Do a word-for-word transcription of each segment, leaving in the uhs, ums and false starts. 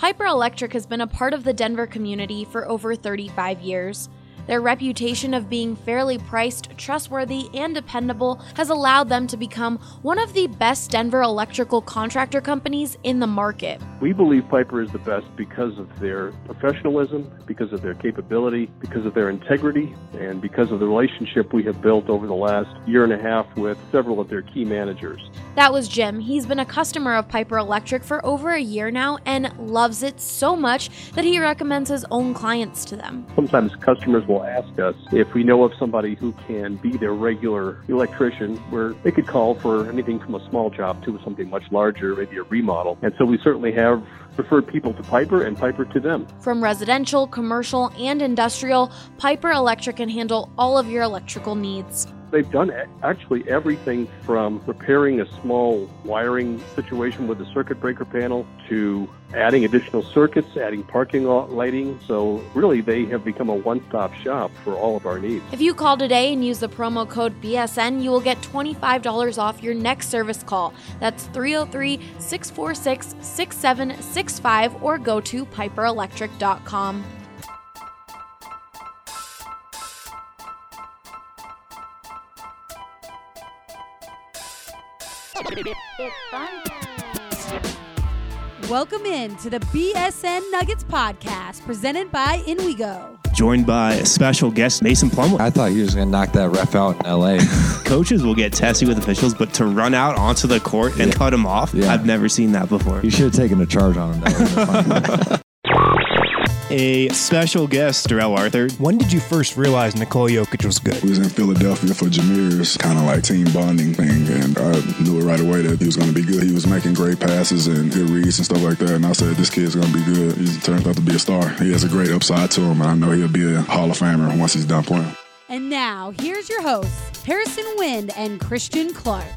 Piper Electric has been a part of the Denver community for over thirty-five years. Their reputation of being fairly priced, trustworthy, and dependable has allowed them to become one of the best Denver electrical contractor companies in the market. We believe Piper is the best because of their professionalism, because of their capability, because of their integrity, and because of the relationship we have built over the last year and a half with several of their key managers. That was Jim. He's been a customer of Piper Electric for over a year now and loves it so much that he recommends his own clients to them. Sometimes customers will ask us if we know of somebody who can be their regular electrician, where they could call for anything from a small job to something much larger, maybe a remodel. And so we certainly have referred people to Piper and Piper to them. From residential, commercial, and industrial, Piper Electric can handle all of your electrical needs. They've done actually everything from repairing a small wiring situation with a circuit breaker panel to adding additional circuits, adding parking lot lighting. So really, they have become a one-stop shop for all of our needs. If you call today and use the promo code B S N, you will get twenty-five dollars off your next service call. That's three oh three, six four six, six seven six five or go to piper electric dot com. It's fun. Welcome in to the B S N Nuggets podcast presented by InWeGo. Joined by a special guest, Mason Plumlee. I thought he was going to knock that ref out in L A. Coaches will get testy with officials, but to run out onto the court and yeah. cut him off, yeah. I've never seen that before. You should have taken a charge on him. That A special guest, Darrell Arthur. When did you first realize Nikola Jokic was good? We was in Philadelphia for Jameer's kind of like team bonding thing, and I knew it right away that he was going to be good. He was making great passes and good reads and stuff like that, and I said, this kid's going to be good. He turns out to be a star. He has a great upside to him, and I know he'll be a Hall of Famer once he's done playing. And now, here's your hosts, Harrison Wind and Christian Clark.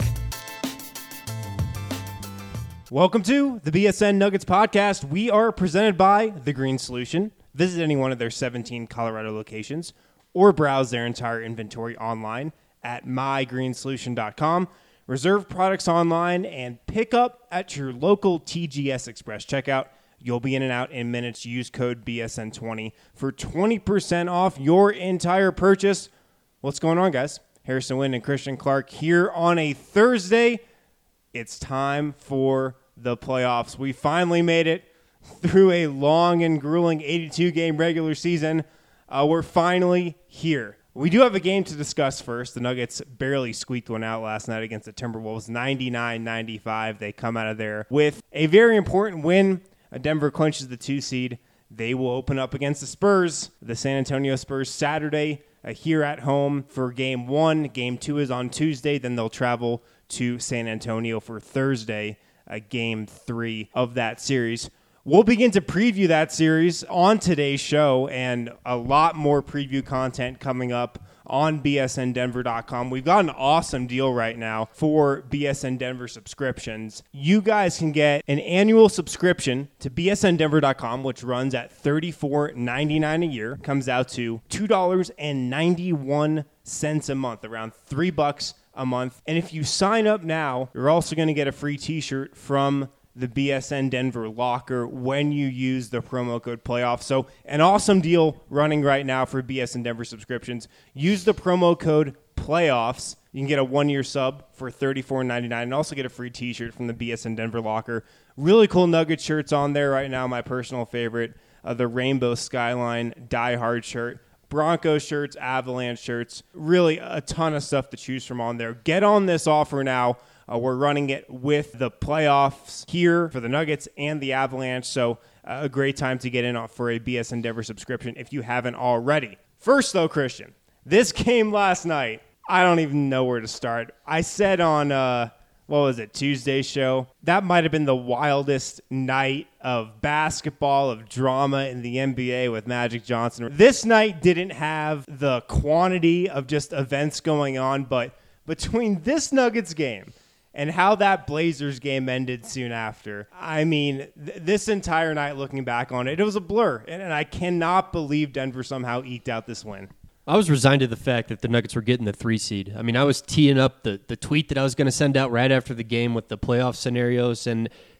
Welcome to the B S N Nuggets podcast. We are presented by The Green Solution. Visit any one of their seventeen Colorado locations or browse their entire inventory online at my green solution dot com. Reserve products online and pick up at your local T G S Express checkout. You'll be in and out in minutes. Use code B S N twenty for twenty percent off your entire purchase. What's going on, guys? Harrison Wind and Christian Clark here on a Thursday. It's time for the playoffs. We finally made it through a long and grueling eighty-two game regular season. Uh, we're finally here. We do have a game to discuss first. The Nuggets barely squeaked one out last night against the Timberwolves, ninety-nine ninety-five. They come out of there with a very important win. Denver clinches the two seed. They will open up against the Spurs, the San Antonio Spurs, Saturday uh, here at home for game one. Game two is on Tuesday. Then they'll travel to San Antonio for Thursday, uh, game three of that series. We'll begin to preview that series on today's show, and a lot more preview content coming up on B S N Denver dot com. We've got an awesome deal right now for B S N Denver subscriptions. You guys can get an annual subscription to B S N Denver dot com, which runs at thirty-four ninety-nine a year. Comes out to two dollars and ninety-one cents a month, around three bucks a month. And if you sign up now, you're also going to get a free t-shirt from the B S N Denver locker when you use the promo code playoff. So an awesome deal running right now for B S N Denver subscriptions. Use the promo code playoffs. You can get a one-year sub for thirty-four ninety-nine and also get a free t-shirt from the B S N Denver locker. Really cool Nugget shirts on there right now. My personal favorite, uh, the Rainbow Skyline Die Hard shirt. Broncos shirts, Avalanche shirts, really a ton of stuff to choose from on there. Get on this offer now. Uh, we're running it with the playoffs here for the Nuggets and the Avalanche, so uh, a great time to get in for a B S N Denver subscription if you haven't already. First, though, Christian, this game last night, I don't even know where to start. I said on, uh, what was it, Tuesday's show, that might have been the wildest night of basketball, of drama in the N B A with Magic Johnson. This night didn't have the quantity of just events going on, but between this Nuggets game and how that Blazers game ended soon after, I mean, th- this entire night looking back on it, it was a blur, and, and I cannot believe Denver somehow eked out this win. I was resigned to the fact that the Nuggets were getting the three seed. I mean, I was teeing up the, the tweet that I was going to send out right after the game with the playoff scenarios, and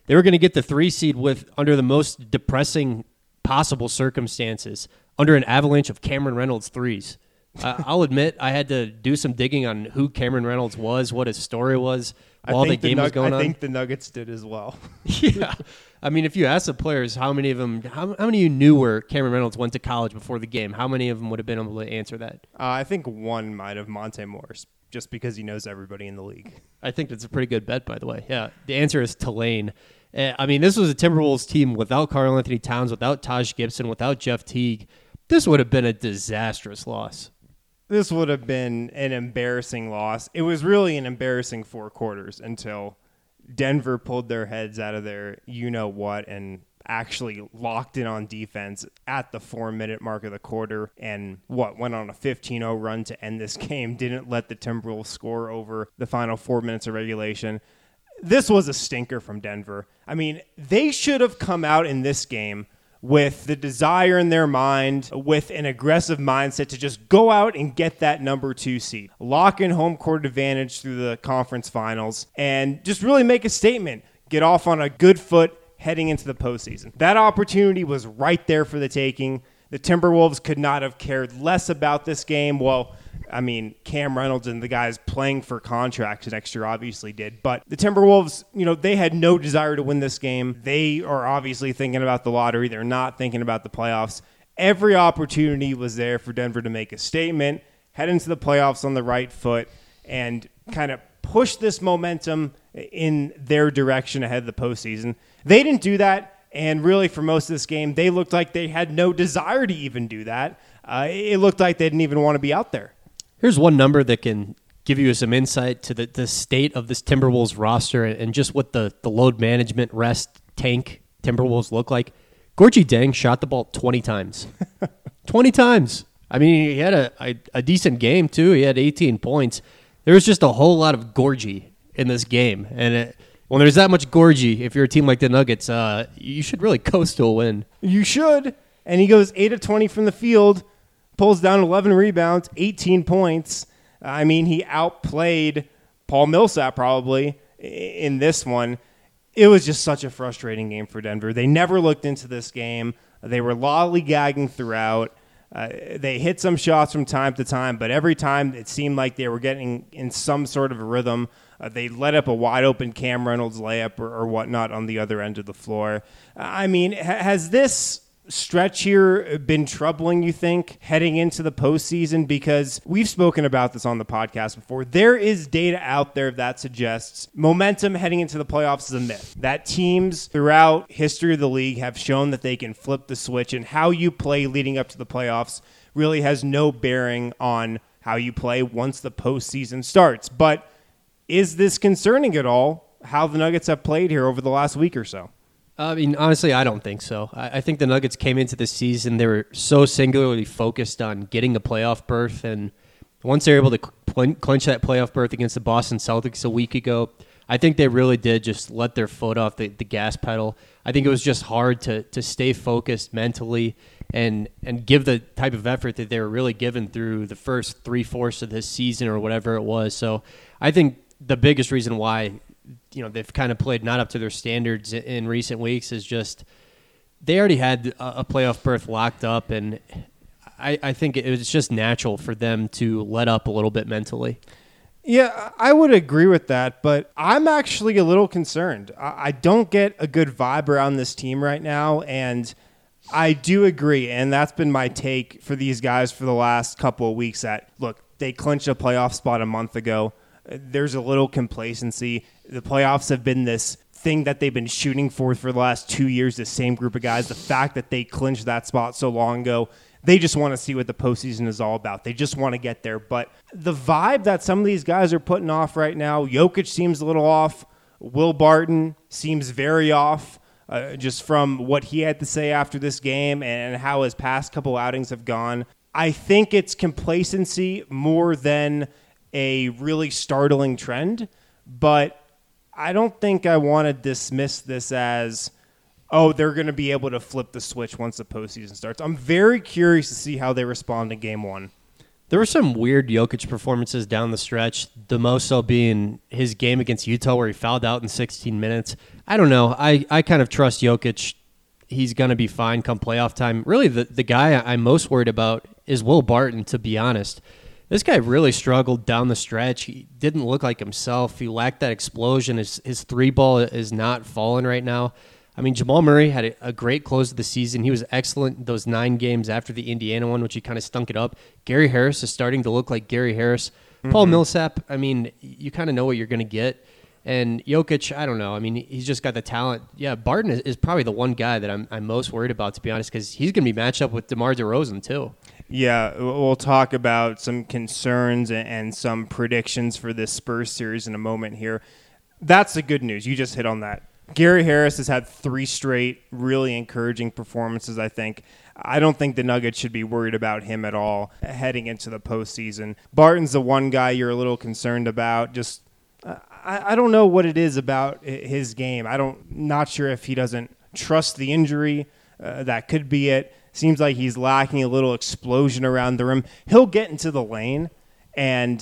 They were going to get the three seed with under the most depressing possible circumstances, under an avalanche of Cameron Reynolds threes. uh, I'll admit I had to do some digging on who Cameron Reynolds was, what his story was while the game the was going I on. I think the Nuggets did as well. Yeah. I mean, if you ask the players how many of them, how, how many of you knew where Cameron Reynolds went to college before the game, how many of them would have been able to answer that? Uh, I think one might have Monte Morris, just because he knows everybody in the league. I think that's a pretty good bet, by the way. Yeah, the answer is Tulane. Uh, I mean, this was a Timberwolves team without Karl Anthony Towns, without Taj Gibson, without Jeff Teague. This would have been a disastrous loss. This would have been an embarrassing loss. It was really an embarrassing four quarters until Denver pulled their heads out of their you-know-what and actually locked in on defense at the four-minute mark of the quarter and, what, went on a fifteen oh run to end this game, didn't let the Timberwolves score over the final four minutes of regulation. This was a stinker from Denver. I mean, they should have come out in this game with the desire in their mind, with an aggressive mindset to just go out and get that number two seed, lock in home court advantage through the conference finals, and just really make a statement, get off on a good foot heading into the postseason. That opportunity was right there for the taking. The Timberwolves could not have cared less about this game. Well, I mean, Cam Reynolds and the guys playing for contracts next year obviously did. But the Timberwolves, you know, they had no desire to win this game. They are obviously thinking about the lottery. They're not thinking about the playoffs. Every opportunity was there for Denver to make a statement, head into the playoffs on the right foot, and kind of push this momentum in their direction ahead of the postseason. They didn't do that. And really, for most of this game, they looked like they had no desire to even do that. Uh, it looked like they didn't even want to be out there. Here's one number that can give you some insight to the, the state of this Timberwolves roster and just what the, the load management rest tank Timberwolves look like. Gorgie Deng shot the ball twenty times. twenty times. I mean, he had a, a, a decent game, too. He had eighteen points. There was just a whole lot of Gorgie in this game. And it, when there's that much Gorgie, if you're a team like the Nuggets, uh, you should really coast to a win. You should. And he goes eight of twenty from the field, pulls down eleven rebounds, eighteen points. I mean, he outplayed Paul Millsap probably in this one. It was just such a frustrating game for Denver. They never looked into this game. They were lollygagging throughout. Uh, they hit some shots from time to time, but every time it seemed like they were getting in some sort of a rhythm. Uh, they let up a wide-open Cam Reynolds layup or, or whatnot on the other end of the floor. I mean, ha- has this stretch here been troubling, you think, heading into the postseason? Because we've spoken about this on the podcast before. There is data out there that suggests momentum heading into the playoffs is a myth. That teams throughout history of the league have shown that they can flip the switch, and how you play leading up to the playoffs really has no bearing on how you play once the postseason starts. But is this concerning at all, how the Nuggets have played here over the last week or so? I mean, honestly, I don't think so. I, I think the Nuggets came into the season, they were so singularly focused on getting a playoff berth, and once they were able to cl- clinch that playoff berth against the Boston Celtics a week ago, I think they really did just let their foot off the, the gas pedal. I think it was just hard to to stay focused mentally and and give the type of effort that they were really given through the first three-fourths of this season or whatever it was. So I think the biggest reason why, you know, they've kind of played not up to their standards in recent weeks is just they already had a playoff berth locked up, and I, I think it was just natural for them to let up a little bit mentally. Yeah, I would agree with that, but I'm actually a little concerned. I don't get a good vibe around this team right now, and I do agree, and that's been my take for these guys for the last couple of weeks that, look, they clinched a playoff spot a month ago. There's a little complacency. The playoffs have been this thing that they've been shooting for for the last two years, the same group of guys. The fact that they clinched that spot so long ago, they just want to see what the postseason is all about. They just want to get there. But the vibe that some of these guys are putting off right now, Jokic seems a little off. Will Barton seems very off, uh, just from what he had to say after this game and how his past couple outings have gone. I think it's complacency more than a really startling trend, but I don't think I want to dismiss this as, oh, they're going to be able to flip the switch once the postseason starts. I'm very curious to see how they respond in game one. There were some weird Jokic performances down the stretch, the most so being his game against Utah where he fouled out in sixteen minutes. I don't know. I, I kind of trust Jokic. He's going to be fine come playoff time. Really, the, the guy I'm most worried about is Will Barton, to be honest. This guy really struggled down the stretch. He didn't look like himself. He lacked that explosion. His, his three ball is not falling right now. I mean, Jamal Murray had a, a great close of the season. He was excellent those nine games after the Indiana one, which he kind of stunk it up. Gary Harris is starting to look like Gary Harris. Mm-hmm. Paul Millsap, I mean, you kind of know what you're going to get. And Jokic, I don't know. I mean, he's just got the talent. Yeah, Barton is, is probably the one guy that I'm, I'm most worried about, to be honest, because he's going to be matched up with DeMar DeRozan, too. Yeah, we'll talk about some concerns and some predictions for this Spurs series in a moment here. That's the good news. You just hit on that. Gary Harris has had three straight really encouraging performances, I think. I don't think the Nuggets should be worried about him at all heading into the postseason. Barton's the one guy you're a little concerned about. Just uh, I, I don't know what it is about his game. I don't not sure if he doesn't trust the injury. Uh, that could be it. Seems like he's lacking a little explosion around the rim. He'll get into the lane, and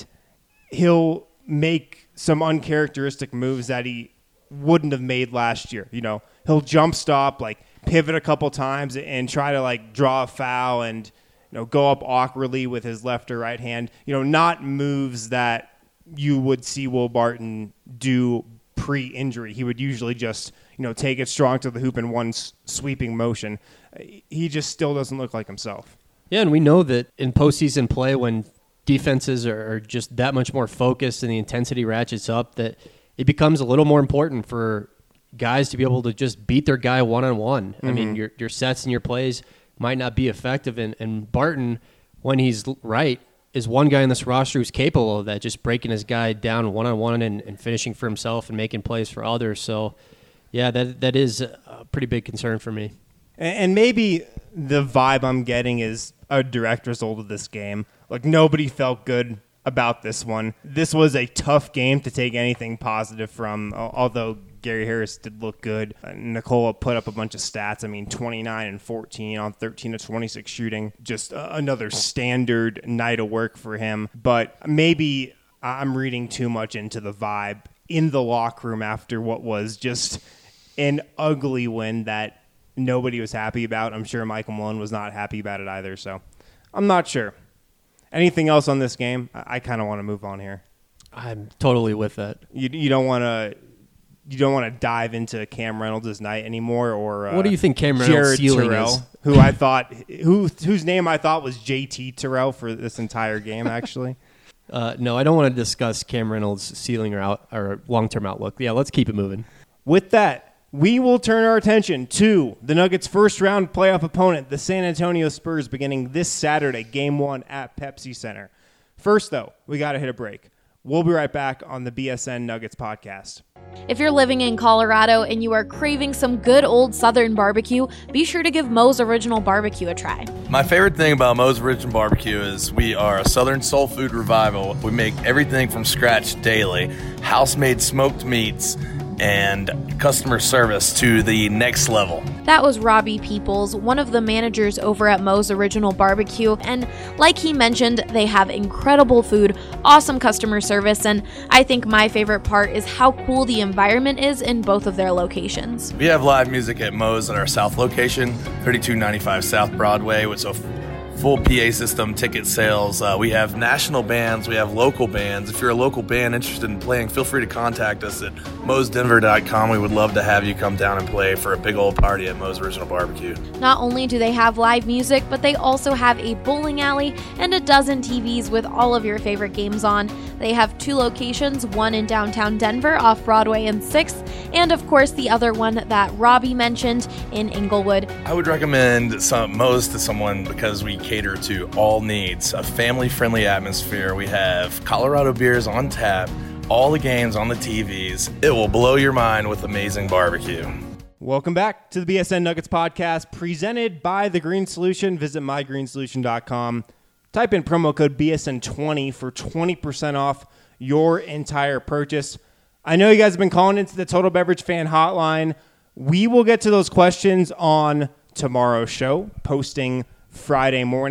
he'll make some uncharacteristic moves that he wouldn't have made last year. You know, he'll jump stop, like pivot a couple times and try to like draw a foul and, you know, go up awkwardly with his left or right hand. You know, not moves that you would see Will Barton do pre-injury. He would usually just, you know, take it strong to the hoop in one s- sweeping motion. He just still doesn't look like himself. Yeah, and we know that in postseason play, when defenses are, are just that much more focused and the intensity ratchets up, that it becomes a little more important for guys to be able to just beat their guy one-on-one. Mm-hmm. I mean, your your sets and your plays might not be effective, and, and Barton, when he's right, is one guy in this roster who's capable of that, just breaking his guy down one-on-one and, and finishing for himself and making plays for others. So, yeah, that that is a pretty big concern for me. And maybe the vibe I'm getting is a direct result of this game. Like, nobody felt good about this one. This was a tough game to take anything positive from, although Gary Harris did look good. Uh, Nikola put up a bunch of stats. I mean, twenty-nine and fourteen on thirteen of twenty-six shooting. Just uh, another standard night of work for him. But maybe I'm reading too much into the vibe in the locker room after what was just an ugly win that nobody was happy about. I'm sure Michael Malone was not happy about it either, so I'm not sure. Anything else on this game? I, I kind of want to move on here. I'm totally with that. You you don't want to you don't want to dive into Cam Reynolds' night anymore, or uh, what do you think Cam Reynolds' Jared ceiling Terrell, is? who I thought who whose name I thought was J T Terrell for this entire game, actually. uh, no, I don't want to discuss Cam Reynolds' ceiling or out or long-term outlook. Yeah, let's keep it moving. With that, we will turn our attention to the Nuggets' first-round playoff opponent, the San Antonio Spurs, beginning this Saturday, Game one at Pepsi Center. First, though, we got to hit a break. We'll be right back on the B S N Nuggets podcast. If you're living in Colorado and you are craving some good old Southern barbecue, be sure to give Moe's Original Barbecue a try. My favorite thing about Moe's Original Barbecue is we are a Southern soul food revival. We make everything from scratch daily, house-made smoked meats, and customer service to the next level. That was Robbie Peoples, one of the managers over at Moe's Original Barbecue, and like he mentioned, they have incredible food, awesome customer service, and I think my favorite part is how cool the environment is in both of their locations. We have live music at Moe's at our South location, thirty-two ninety-five South Broadway, with a full P A system, ticket sales. Uh, we have national bands. We have local bands. If you're a local band interested in playing, feel free to contact us at moes denver dot com. We would love to have you come down and play for a big old party at Moe's Original Barbecue. Not only do they have live music, but they also have a bowling alley and a dozen T Vs with all of your favorite games on. They have two locations, one in downtown Denver off Broadway and sixth, and of course the other one that Robbie mentioned in Inglewood. I would recommend some Moe's to someone because we cater to all needs, a family-friendly atmosphere. We have Colorado beers on tap, all the games on the T Vs. It will blow your mind with amazing barbecue. Welcome back to the B S N Nuggets podcast, presented by The Green Solution. Visit my green solution dot com. Type in promo code B S N twenty for twenty percent off your entire purchase. I know you guys have been calling into the Total Beverage Fan Hotline. We will get to those questions on tomorrow's show, posting Friday morning.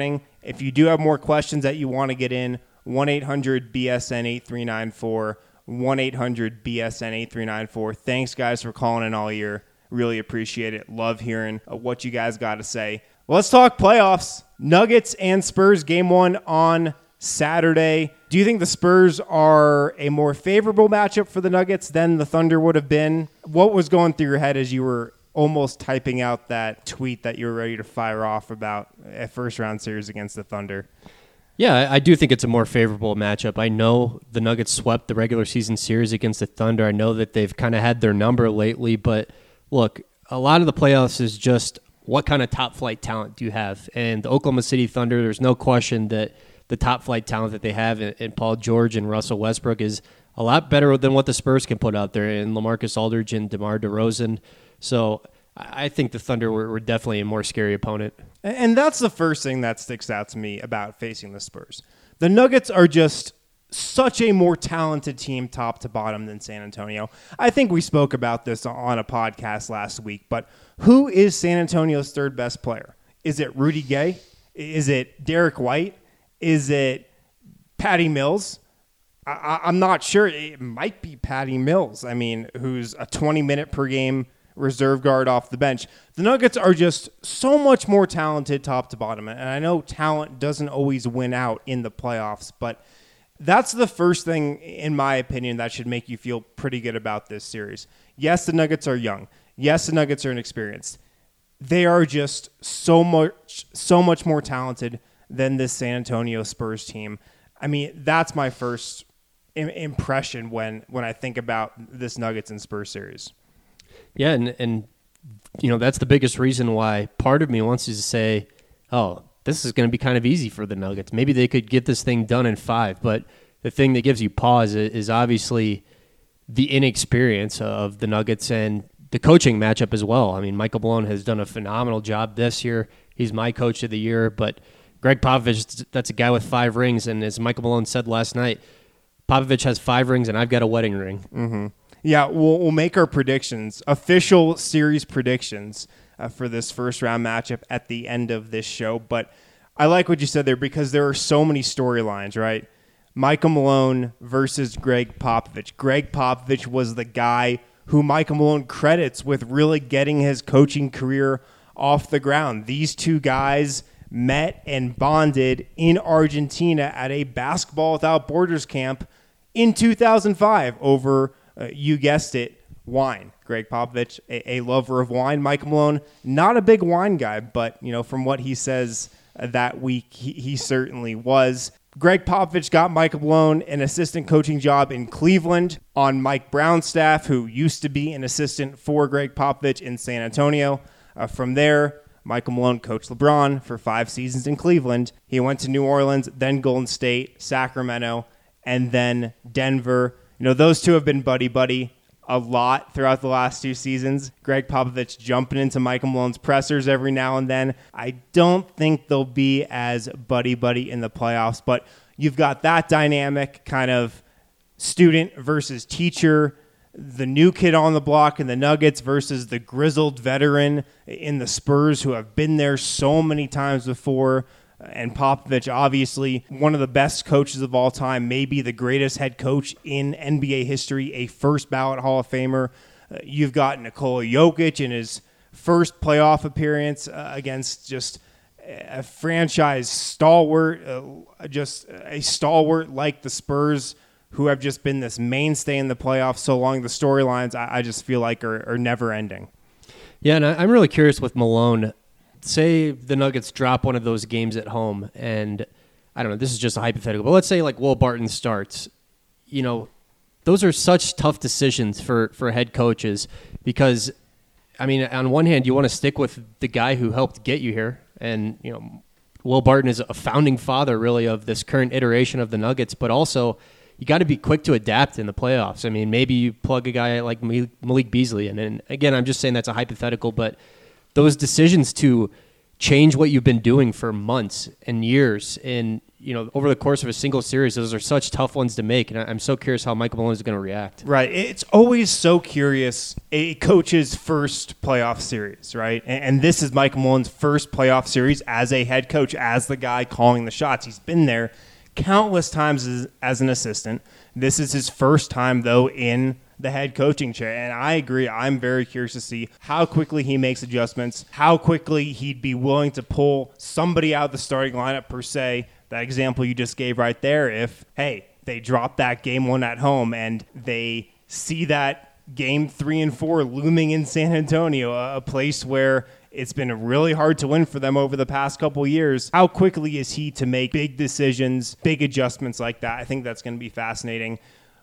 If you do have more questions that you want to get in, one eight hundred B S N eight three nine four, one eight hundred B S N eight three nine four. Thanks, guys, for calling in all year. Really appreciate it. Love hearing what you guys got to say. Well, let's talk playoffs. Nuggets and Spurs, game one on Saturday. Do you think the Spurs are a more favorable matchup for the Nuggets than the Thunder would have been? What was going through your head as you were almost typing out that tweet that you were ready to fire off about a first-round series against the Thunder? Yeah, I do think it's a more favorable matchup. I know the Nuggets swept the regular season series against the Thunder. I know that they've kind of had their number lately, but look, a lot of the playoffs is just what kind of top-flight talent do you have? And the Oklahoma City Thunder, there's no question that the top-flight talent that they have in, in Paul George and Russell Westbrook is a lot better than what the Spurs can put out there in LaMarcus Aldridge and DeMar DeRozan. So I think the Thunder were, were definitely a more scary opponent. And that's the first thing that sticks out to me about facing the Spurs. The Nuggets are just such a more talented team top to bottom than San Antonio. I think we spoke about this on a podcast last week, but who is San Antonio's third best player? Is it Rudy Gay? Is it Derek White? Is it Patty Mills? I, I'm not sure. It might be Patty Mills, I mean, who's a twenty-minute per game reserve guard off the bench. The Nuggets are just so much more talented top to bottom. And I know talent doesn't always win out in the playoffs, but that's the first thing, in my opinion, that should make you feel pretty good about this series. Yes, the Nuggets are young. Yes, the Nuggets are inexperienced. They are just so much, so much more talented than this San Antonio Spurs team. I mean, that's my first im- impression when, when I think about this Nuggets and Spurs series. Yeah, and, and you know, that's the biggest reason why part of me wants to say, oh, this is going to be kind of easy for the Nuggets. Maybe they could get this thing done in five, but the thing that gives you pause is obviously the inexperience of the Nuggets and the coaching matchup as well. I mean, Michael Malone has done a phenomenal job this year. He's my coach of the year, but Greg Popovich, that's a guy with five rings, and as Michael Malone said last night, Popovich has five rings and I've got a wedding ring. Mm-hmm. Yeah, we'll, we'll make our predictions, official series predictions uh, for this first round matchup at the end of this show. But I like what you said there because there are so many storylines, right? Michael Malone versus Greg Popovich. Greg Popovich was the guy who Michael Malone credits with really getting his coaching career off the ground. These two guys met and bonded in Argentina at a Basketball Without Borders camp in two thousand five over Uh, you guessed it, wine. Greg Popovich, a, a lover of wine. Mike Malone, not a big wine guy, but you know, from what he says uh, that week, he, he certainly was. Greg Popovich got Mike Malone an assistant coaching job in Cleveland on Mike Brown's staff, who used to be an assistant for Greg Popovich in San Antonio. Uh, from there, Michael Malone coached LeBron for five seasons in Cleveland. He went to New Orleans, then Golden State, Sacramento, and then Denver. You know, those two have been buddy-buddy a lot throughout the last two seasons. Greg Popovich jumping into Michael Malone's pressers every now and then. I don't think they'll be as buddy-buddy in the playoffs, but you've got that dynamic kind of student versus teacher, the new kid on the block in the Nuggets versus the grizzled veteran in the Spurs who have been there so many times before. And Popovich, obviously, one of the best coaches of all time, maybe the greatest head coach in N B A history, a first ballot Hall of Famer. Uh, you've got Nikola Jokic in his first playoff appearance uh, against just a franchise stalwart, uh, just a stalwart like the Spurs, who have just been this mainstay in the playoffs so long. The storylines, I, I just feel like, are, are never ending. Yeah, and I, I'm really curious with Malone. Say the Nuggets drop one of those games at home, and I don't know, this is just a hypothetical, but let's say like Will Barton starts. You know, those are such tough decisions for, for head coaches because, I mean, on one hand, you want to stick with the guy who helped get you here, and, you know, Will Barton is a founding father, really, of this current iteration of the Nuggets, but also you got to be quick to adapt in the playoffs. I mean, maybe you plug a guy like Malik Beasley in, and again, I'm just saying that's a hypothetical, but those decisions to change what you've been doing for months and years, and you know, over the course of a single series, those are such tough ones to make. And I'm so curious how Michael Malone is going to react. Right. It's always so curious, a coach's first playoff series, right? And, and this is Michael Malone's first playoff series as a head coach, as the guy calling the shots. He's been there countless times as, as an assistant. This is his first time, though, in the head coaching chair. And I agree. I'm very curious to see how quickly he makes adjustments, how quickly he'd be willing to pull somebody out of the starting lineup, per se. That example you just gave right there, if, hey, they drop that game one at home and they see that game three and four looming in San Antonio, a place where it's been really hard to win for them over the past couple of years. How quickly is he to make big decisions, big adjustments like that? I think that's going to be fascinating.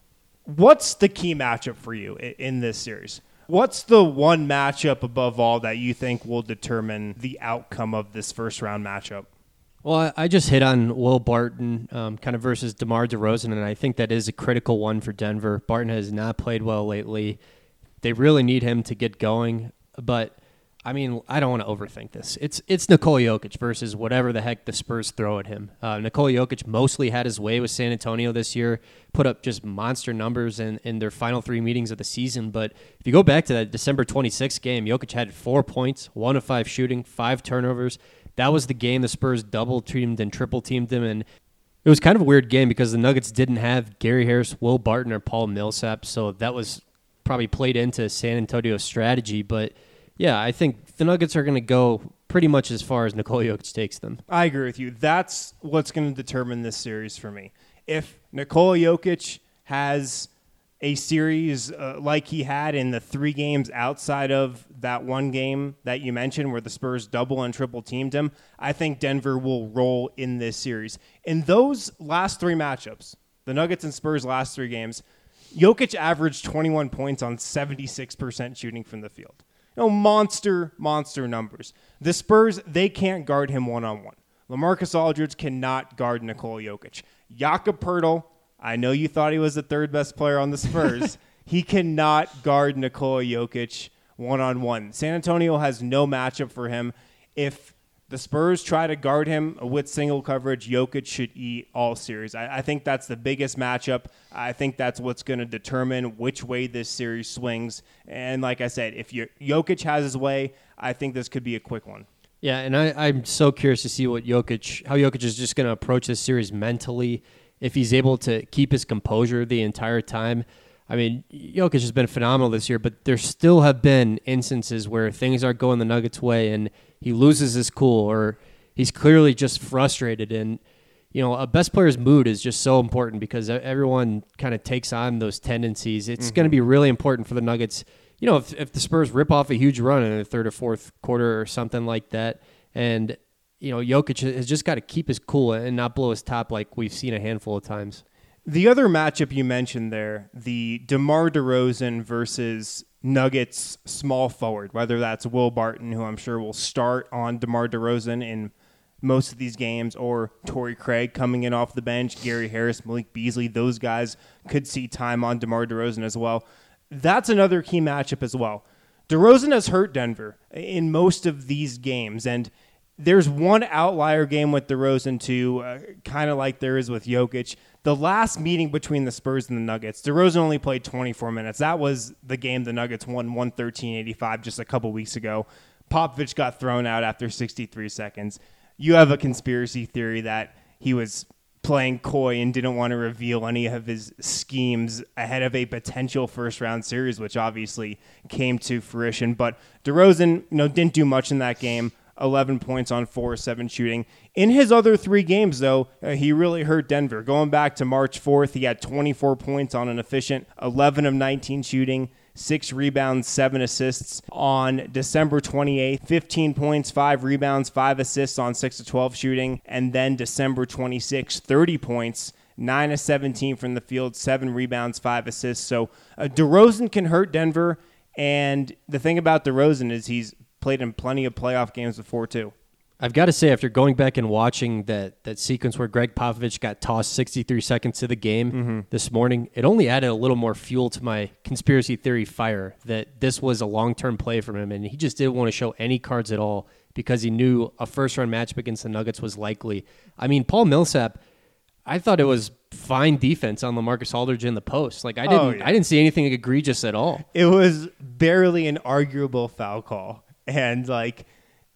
What's the key matchup for you in this series? What's the one matchup above all that you think will determine the outcome of this first round matchup? Well, I just hit on Will Barton um, kind of versus DeMar DeRozan, and I think that is a critical one for Denver. Barton has not played well lately. They really need him to get going, but I mean, I don't want to overthink this. It's it's Nikola Jokic versus whatever the heck the Spurs throw at him. Uh, Nikola Jokic mostly had his way with San Antonio this year, put up just monster numbers in, in their final three meetings of the season. But if you go back to that December twenty-sixth game, Jokic had four points, one of five shooting, five turnovers. That was the game the Spurs double-teamed and triple-teamed him. And it was kind of a weird game because the Nuggets didn't have Gary Harris, Will Barton, or Paul Millsap. So that was probably played into San Antonio's strategy. But yeah, I think the Nuggets are going to go pretty much as far as Nikola Jokic takes them. I agree with you. That's what's going to determine this series for me. If Nikola Jokic has a series uh, like he had in the three games outside of that one game that you mentioned where the Spurs double and triple teamed him, I think Denver will roll in this series. In those last three matchups, the Nuggets and Spurs last three games, Jokic averaged twenty-one points on seventy-six percent shooting from the field. You know, monster, monster numbers. The Spurs, they can't guard him one-on-one. LaMarcus Aldridge cannot guard Nikola Jokic. Jakob Poeltl, I know you thought he was the third best player on the Spurs. He cannot guard Nikola Jokic one-on-one. San Antonio has no matchup for him. If the Spurs try to guard him with single coverage, Jokic should eat all series. I, I think that's the biggest matchup. I think that's what's going to determine which way this series swings. And like I said, if you, Jokic has his way, I think this could be a quick one. Yeah, and I, I'm so curious to see what Jokic, how Jokic is just going to approach this series mentally, if he's able to keep his composure the entire time. I mean, Jokic has been phenomenal this year, but there still have been instances where things aren't going the Nuggets' way and he loses his cool or he's clearly just frustrated. And, you know, a best player's mood is just so important because everyone kind of takes on those tendencies. It's mm-hmm. going to be really important for the Nuggets. You know, if, if the Spurs rip off a huge run in the third or fourth quarter or something like that, and, you know, Jokic has just got to keep his cool and not blow his top like we've seen a handful of times. The other matchup you mentioned there, the DeMar DeRozan versus Nuggets small forward, whether that's Will Barton, who I'm sure will start on DeMar DeRozan in most of these games, or Torrey Craig coming in off the bench, Gary Harris, Malik Beasley, those guys could see time on DeMar DeRozan as well. That's another key matchup as well. DeRozan has hurt Denver in most of these games, and there's one outlier game with DeRozan too, uh, kind of like there is with Jokic. The last meeting between the Spurs and the Nuggets, DeRozan only played twenty-four minutes. That was the game the Nuggets won one thirteen eighty-five just a couple weeks ago. Popovich got thrown out after sixty-three seconds. You have a conspiracy theory that he was playing coy and didn't want to reveal any of his schemes ahead of a potential first-round series, which obviously came to fruition. But DeRozan, you know, didn't do much in that game. eleven points on four of seven shooting. In his other three games, though, uh, he really hurt Denver. Going back to March fourth, he had twenty-four points on an efficient eleven of nineteen shooting, six rebounds, seven assists. On December twenty-eighth, fifteen points, five rebounds, five assists on six of twelve shooting. And then December twenty-sixth, thirty points, nine of seventeen from the field, seven rebounds, five assists. So uh, DeRozan can hurt Denver. And the thing about DeRozan is he's played in plenty of playoff games before, too. I've got to say, after going back and watching that that sequence where Greg Popovich got tossed sixty-three seconds to the game mm-hmm. this morning, it only added a little more fuel to my conspiracy theory fire that this was a long-term play from him, and he just didn't want to show any cards at all because he knew a first-round matchup against the Nuggets was likely. I mean, Paul Millsap, I thought it was fine defense on LaMarcus Aldridge in the post. Like I didn't, Oh, yeah. I didn't see anything egregious at all. It was barely an arguable foul call. And, like,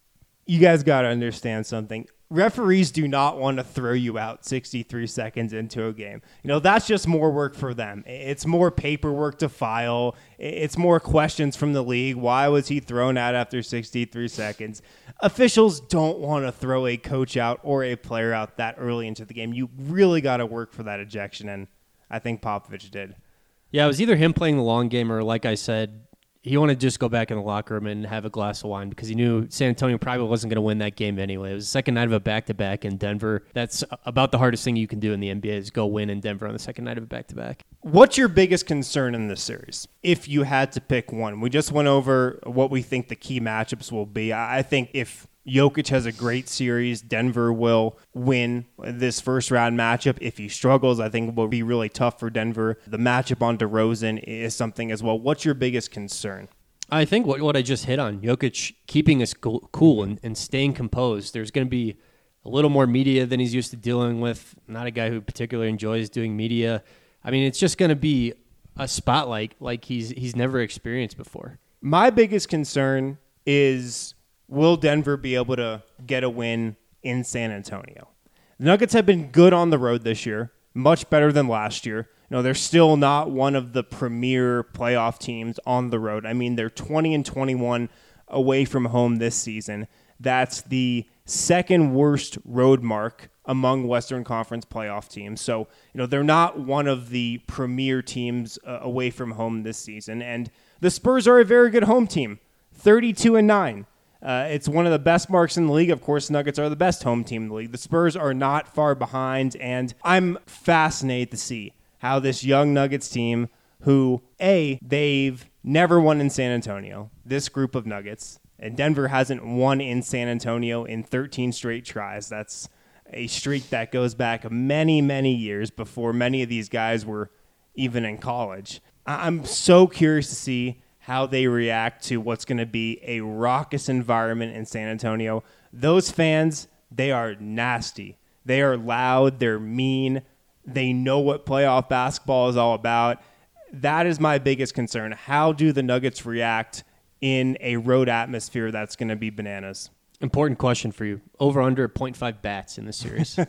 you guys got to understand something. Referees do not want to throw you out sixty-three seconds into a game. You know, that's just more work for them. It's more paperwork to file. It's more questions from the league. Why was he thrown out after sixty-three seconds? Officials don't want to throw a coach out or a player out that early into the game. You really got to work for that ejection, and I think Popovich did. Yeah, it was either him playing the long game or, like I said, he wanted to just go back in the locker room and have a glass of wine because he knew San Antonio probably wasn't going to win that game anyway. It was the second night of a back-to-back in Denver. That's about the hardest thing you can do in the N B A is go win in Denver on the second night of a back-to-back. What's your biggest concern in this series, if you had to pick one? We just went over what we think the key matchups will be. I think if Jokic has a great series, Denver will win this first-round matchup. If he struggles, I think it will be really tough for Denver. The matchup on DeRozan is something as well. What's your biggest concern? I think what, what I just hit on, Jokic keeping us cool and, and staying composed. There's going to be a little more media than he's used to dealing with. Not a guy who particularly enjoys doing media. I mean, it's just going to be a spotlight like he's he's never experienced before. My biggest concern is, will Denver be able to get a win in San Antonio? The Nuggets have been good on the road this year, much better than last year. No, they're still not one of the premier playoff teams on the road. I mean, they're twenty and twenty-one away from home this season. That's the second worst road mark among Western Conference playoff teams. So, you know, they're not one of the premier teams uh, away from home this season. And the Spurs are a very good home team, thirty-two and nine. Uh, it's one of the best marks in the league. Of course, Nuggets are the best home team in the league. The Spurs are not far behind, and I'm fascinated to see how this young Nuggets team, who, A, they've never won in San Antonio, this group of Nuggets, and Denver hasn't won in San Antonio in thirteen straight tries. That's a streak that goes back many, many years before many of these guys were even in college. I'm so curious to see how they react to what's going to be a raucous environment in San Antonio. Those fans, they are nasty. They are loud. They're mean. They know what playoff basketball is all about. That is my biggest concern. How do the Nuggets react in a road atmosphere that's going to be bananas? Important question for you. Over under zero point five bats in this series.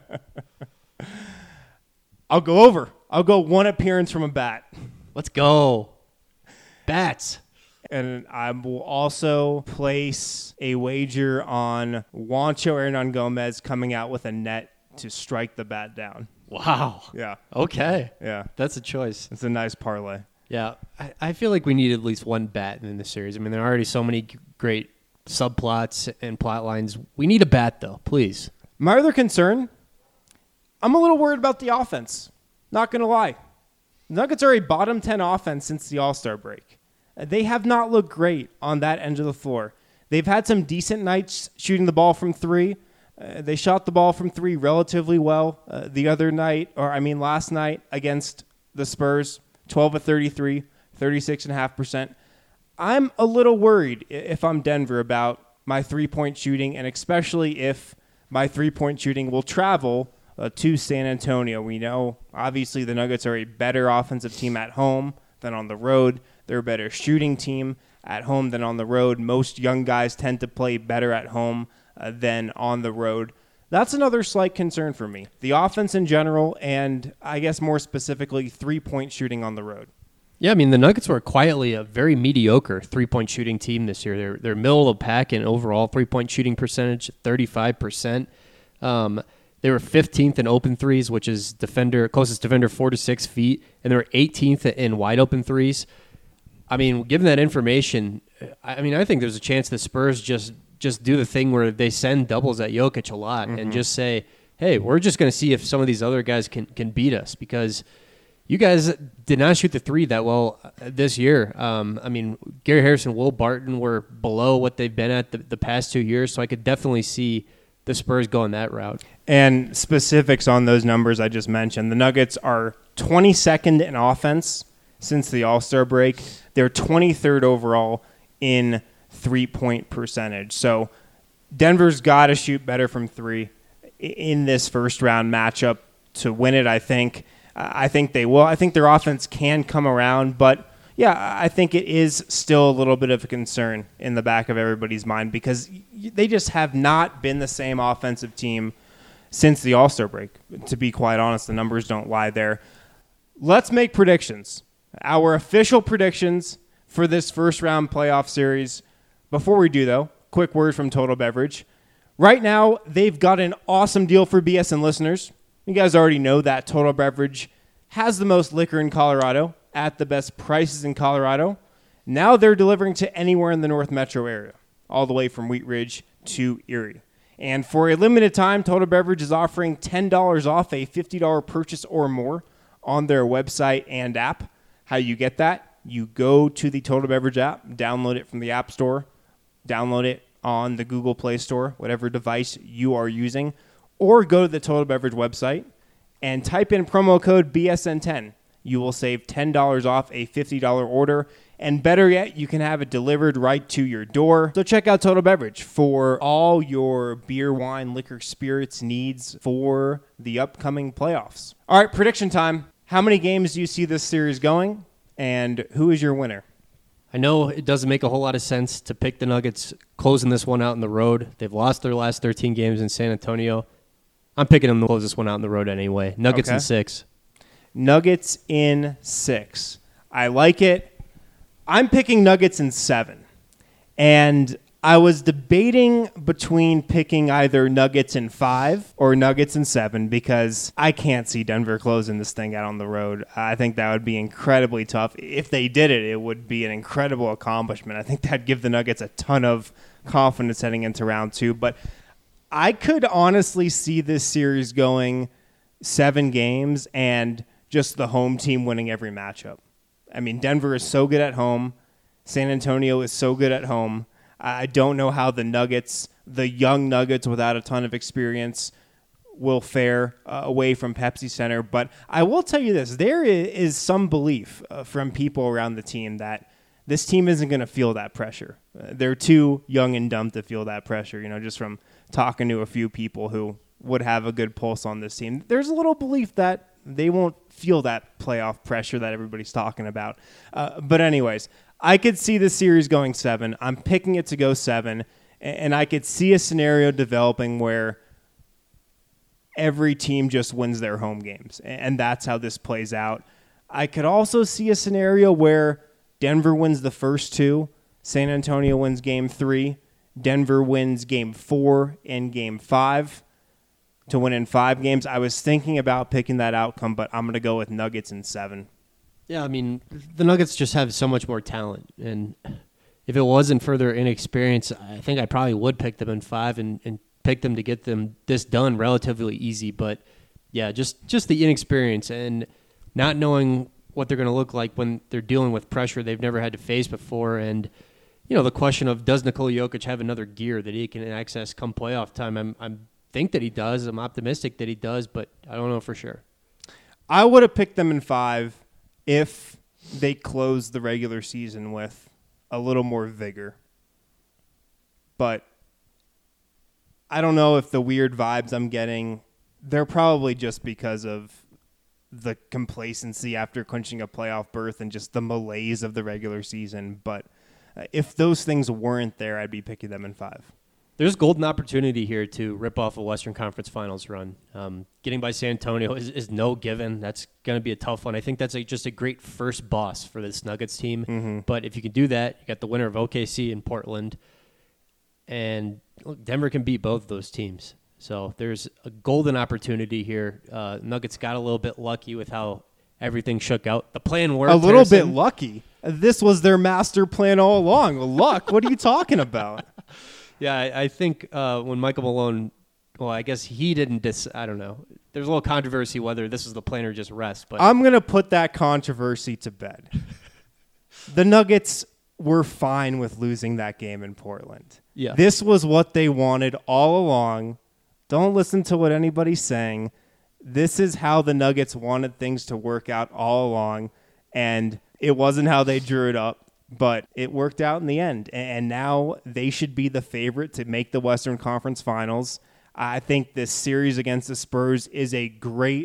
I'll go over. I'll go one appearance from a bat. Let's go. Bats. And I will also place a wager on Juancho Hernangomez coming out with a net to strike the bat down. Wow. Yeah. Okay. Yeah. That's a choice. It's a nice parlay. Yeah. I, I feel like we need at least one bat in this series. I mean, there are already so many g- great subplots and plot lines. We need a bat, though, please. My other concern, I'm a little worried about the offense. Not going to lie. The Nuggets are a bottom ten offense since the All-Star break. They have not looked great on that end of the floor. They've had some decent nights shooting the ball from three. Uh, they shot the ball from three relatively well uh, the other night, or I mean last night against the Spurs, twelve of thirty-three, thirty-six point five percent. I'm a little worried if I'm Denver about my three-point shooting, and especially if my three-point shooting will travel uh, to San Antonio. We know, obviously, the Nuggets are a better offensive team at home than on the road. They're a better shooting team at home than on the road. Most young guys tend to play better at home uh, than on the road. That's another slight concern for me. The offense in general, and I guess more specifically, three-point shooting on the road. Yeah, I mean, the Nuggets were quietly a very mediocre three-point shooting team this year. They're they're middle of the pack in overall three-point shooting percentage, thirty-five percent. Um, they were fifteenth in open threes, which is defender closest defender four to six feet, and they were eighteenth in wide open threes. I mean, given that information, I mean, I think there's a chance the Spurs just just do the thing where they send doubles at Jokic a lot mm-hmm. and just say, hey, we're just going to see if some of these other guys can, can beat us because you guys did not shoot the three that well this year. Um, I mean, Gary Harrison, Will Barton were below what they've been at the, the past two years, so I could definitely see the Spurs going that route. And specifics on those numbers I just mentioned, the Nuggets are twenty-second in offense since the All-Star break. They're twenty-third overall in three-point percentage. So Denver's got to shoot better from three in this first-round matchup to win it. I think I think they will. I think their offense can come around, but yeah, I think it is still a little bit of a concern in the back of everybody's mind because they just have not been the same offensive team since the All-Star break. To be quite honest, the numbers don't lie there. Let's make predictions. Our official predictions for this first round playoff series. Before we do, though, quick word from Total Beverage. Right now, they've got an awesome deal for B S N listeners. You guys already know that Total Beverage has the most liquor in Colorado at the best prices in Colorado. Now they're delivering to anywhere in the North Metro area, all the way from Wheat Ridge to Erie. And for a limited time, Total Beverage is offering ten dollars off a fifty dollars purchase or more on their website and app. How you get that? You go to the Total Beverage app, download it from the App Store, download it on the Google Play Store, whatever device you are using, or go to the Total Beverage website and type in promo code B S N ten. You will save ten dollars off a fifty dollars order, and better yet, you can have it delivered right to your door. So check out Total Beverage for all your beer, wine, liquor, spirits needs for the upcoming playoffs. All right, prediction time. How many games do you see this series going, and who is your winner? I know it doesn't make a whole lot of sense to pick the Nuggets closing this one out on the road. They've lost their last thirteen games in San Antonio. I'm picking them to close this one out on the road anyway. Nuggets Okay. in six. Nuggets in six. I like it. I'm picking Nuggets in seven. And I was debating between picking either Nuggets in five or Nuggets in seven because I can't see Denver closing this thing out on the road. I think that would be incredibly tough. If they did it, it would be an incredible accomplishment. I think that'd give the Nuggets a ton of confidence heading into round two. But I could honestly see this series going seven games and just the home team winning every matchup. I mean, Denver is so good at home. San Antonio is so good at home. I don't know how the Nuggets, the young Nuggets without a ton of experience, will fare uh, away from Pepsi Center. But I will tell you this, there is some belief uh, from people around the team that this team isn't going to feel that pressure. Uh, they're too young and dumb to feel that pressure, you know, just from talking to a few people who would have a good pulse on this team. There's a little belief that they won't feel that playoff pressure that everybody's talking about. Uh, but anyways, I could see the series going seven. I'm picking it to go seven, and I could see a scenario developing where every team just wins their home games, and that's how this plays out. I could also see a scenario where Denver wins the first two, San Antonio wins game three, Denver wins game four and game five to win in five games. I was thinking about picking that outcome, but I'm going to go with Nuggets in seven. Yeah, I mean, the Nuggets just have so much more talent. And if it wasn't for their inexperience, I think I probably would pick them in five and, and pick them to get them this done relatively easy. But, yeah, just, just the inexperience and not knowing what they're going to look like when they're dealing with pressure they've never had to face before. And, you know, the question of does Nikola Jokic have another gear that he can access come playoff time? I'm, I'm think that he does. I'm optimistic that he does, but I don't know for sure. I would have picked them in five if they closed the regular season with a little more vigor. But I don't know if the weird vibes I'm getting, they're probably just because of the complacency after clinching a playoff berth and just the malaise of the regular season. But if those things weren't there, I'd be picking them in five. There's golden opportunity here to rip off a Western Conference Finals run. Um, getting by San Antonio is, is no given. That's going to be a tough one. I think that's a, just a great first boss for this Nuggets team. Mm-hmm. But if you can do that, you got the winner of O K C in Portland. And look, Denver can beat both of those teams. So there's a golden opportunity here. Uh, Nuggets got a little bit lucky with how everything shook out. The plan worked. A little Harrison. bit lucky. This was their master plan all along. Luck? What are you talking about? Yeah, I, I think uh, when Michael Malone, well, I guess he didn't dis. I don't know. There's a little controversy whether this was the plan or just rest. But I'm gonna put that controversy to bed. The Nuggets were fine with losing that game in Portland. Yeah, this was what they wanted all along. Don't listen to what anybody's saying. This is how the Nuggets wanted things to work out all along, and it wasn't how they drew it up. But it worked out in the end, and now they should be the favorite to make the Western Conference Finals. I think this series against the Spurs is a great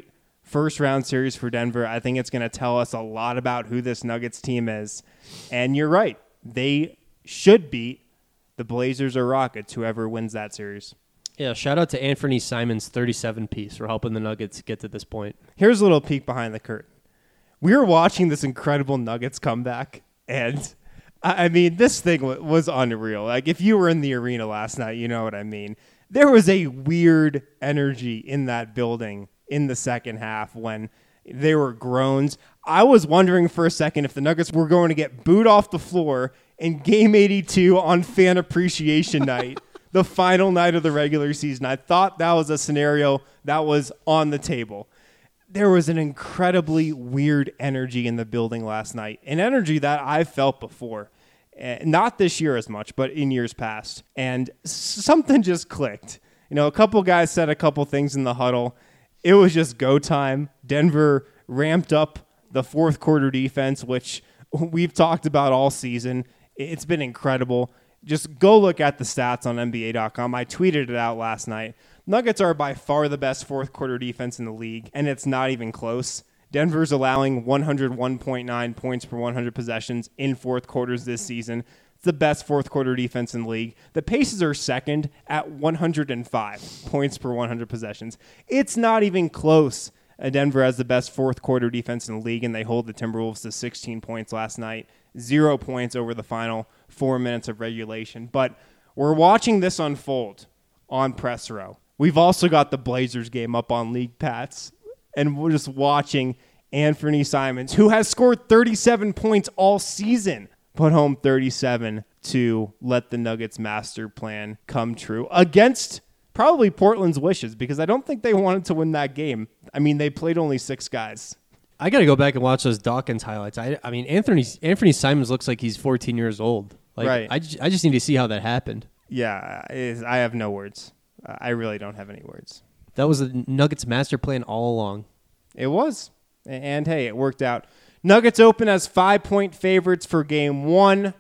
first round series for Denver. I think it's going to tell us a lot about who this Nuggets team is. And you're right. They should beat the Blazers or Rockets, whoever wins that series. Yeah, shout out to Anthony Simons' thirty-seven piece for helping the Nuggets get to this point. Here's a little peek behind the curtain. We were watching this incredible Nuggets comeback, and I mean, this thing w- was unreal. Like, if you were in the arena last night, you know what I mean. There was a weird energy in that building in the second half when there were groans. I was wondering for a second if the Nuggets were going to get booed off the floor in Game eighty-two on Fan Appreciation Night, the final night of the regular season. I thought that was a scenario that was on the table. There was an incredibly weird energy in the building last night, an energy that I've felt before. Uh, not this year as much, but in years past. And something just clicked. You know, a couple guys said a couple things in the huddle. It was just go time. Denver ramped up the fourth quarter defense, which we've talked about all season. It's been incredible. Just go look at the stats on N B A dot com. I tweeted it out last night. Nuggets are by far the best fourth quarter defense in the league, and it's not even close. Denver's allowing one oh one point nine points per one hundred possessions in fourth quarters this season. It's the best fourth quarter defense in the league. The Pacers are second at one hundred five points per one hundred possessions. It's not even close. Denver has the best fourth quarter defense in the league, and they hold the Timberwolves to sixteen points last night. Zero points over the final four minutes of regulation. But we're watching this unfold on Press Row. We've also got the Blazers game up on League Pass, and we're just watching Anthony Simons, who has scored thirty-seven points all season, put home thirty-seven to let the Nuggets master plan come true against probably Portland's wishes, because I don't think they wanted to win that game. I mean, they played only six guys. I got to go back and watch those Dawkins highlights. I, I mean, Anthony Anthony Simons looks like he's fourteen years old. Like, right. I, I just need to see how that happened. Yeah, I have no words. I really don't have any words. That was the Nuggets master plan all along. It was. And, hey, it worked out. Nuggets open as five-point favorites for game one.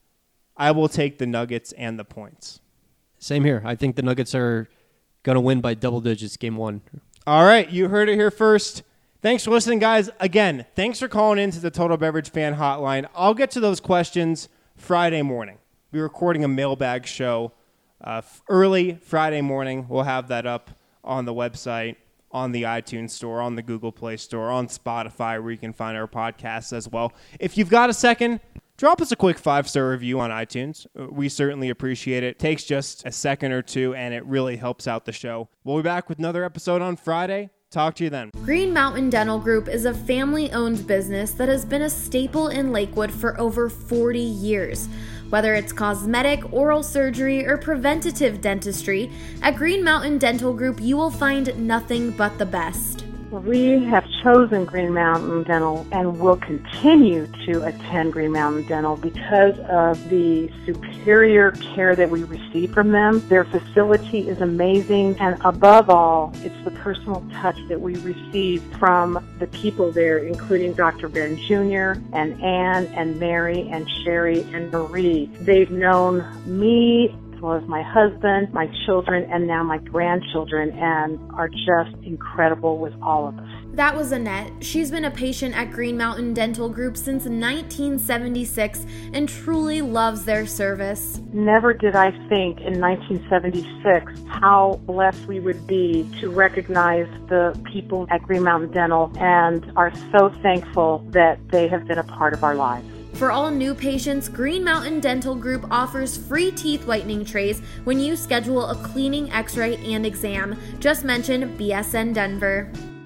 I will take the Nuggets and the points. Same here. I think the Nuggets are going to win by double digits game one. All right, you heard it here first. Thanks for listening, guys. Again, thanks for calling into the Total Beverage Fan Hotline. I'll get to those questions Friday morning. We're recording a mailbag show uh, early Friday morning. We'll have that up on the website, on the iTunes Store, on the Google Play Store, on Spotify, where you can find our podcasts as well. If you've got a second, drop us a quick five-star review on iTunes. We certainly appreciate it. It takes just a second or two, and it really helps out the show. We'll be back with another episode on Friday. Talk to you then. Green Mountain Dental Group is a family-owned business that has been a staple in Lakewood for over forty years. Whether it's cosmetic, oral surgery, or preventative dentistry, at Green Mountain Dental Group you will find nothing but the best. We have chosen Green Mountain Dental and will continue to attend Green Mountain Dental because of the superior care that we receive from them. Their facility is amazing, and above all, it's the personal touch that we receive from the people there, including Doctor Ben Junior and Ann and Mary and Sherry and Marie. They've known me as well as my husband, my children, and now my grandchildren, and are just incredible with all of us. That was Annette. She's been a patient at Green Mountain Dental Group since nineteen seventy-six and truly loves their service. Never did I think in nineteen seventy-six how blessed we would be to recognize the people at Green Mountain Dental, and are so thankful that they have been a part of our lives. For all new patients, Green Mountain Dental Group offers free teeth whitening trays when you schedule a cleaning, x-ray, and exam. Just mention B S N Denver.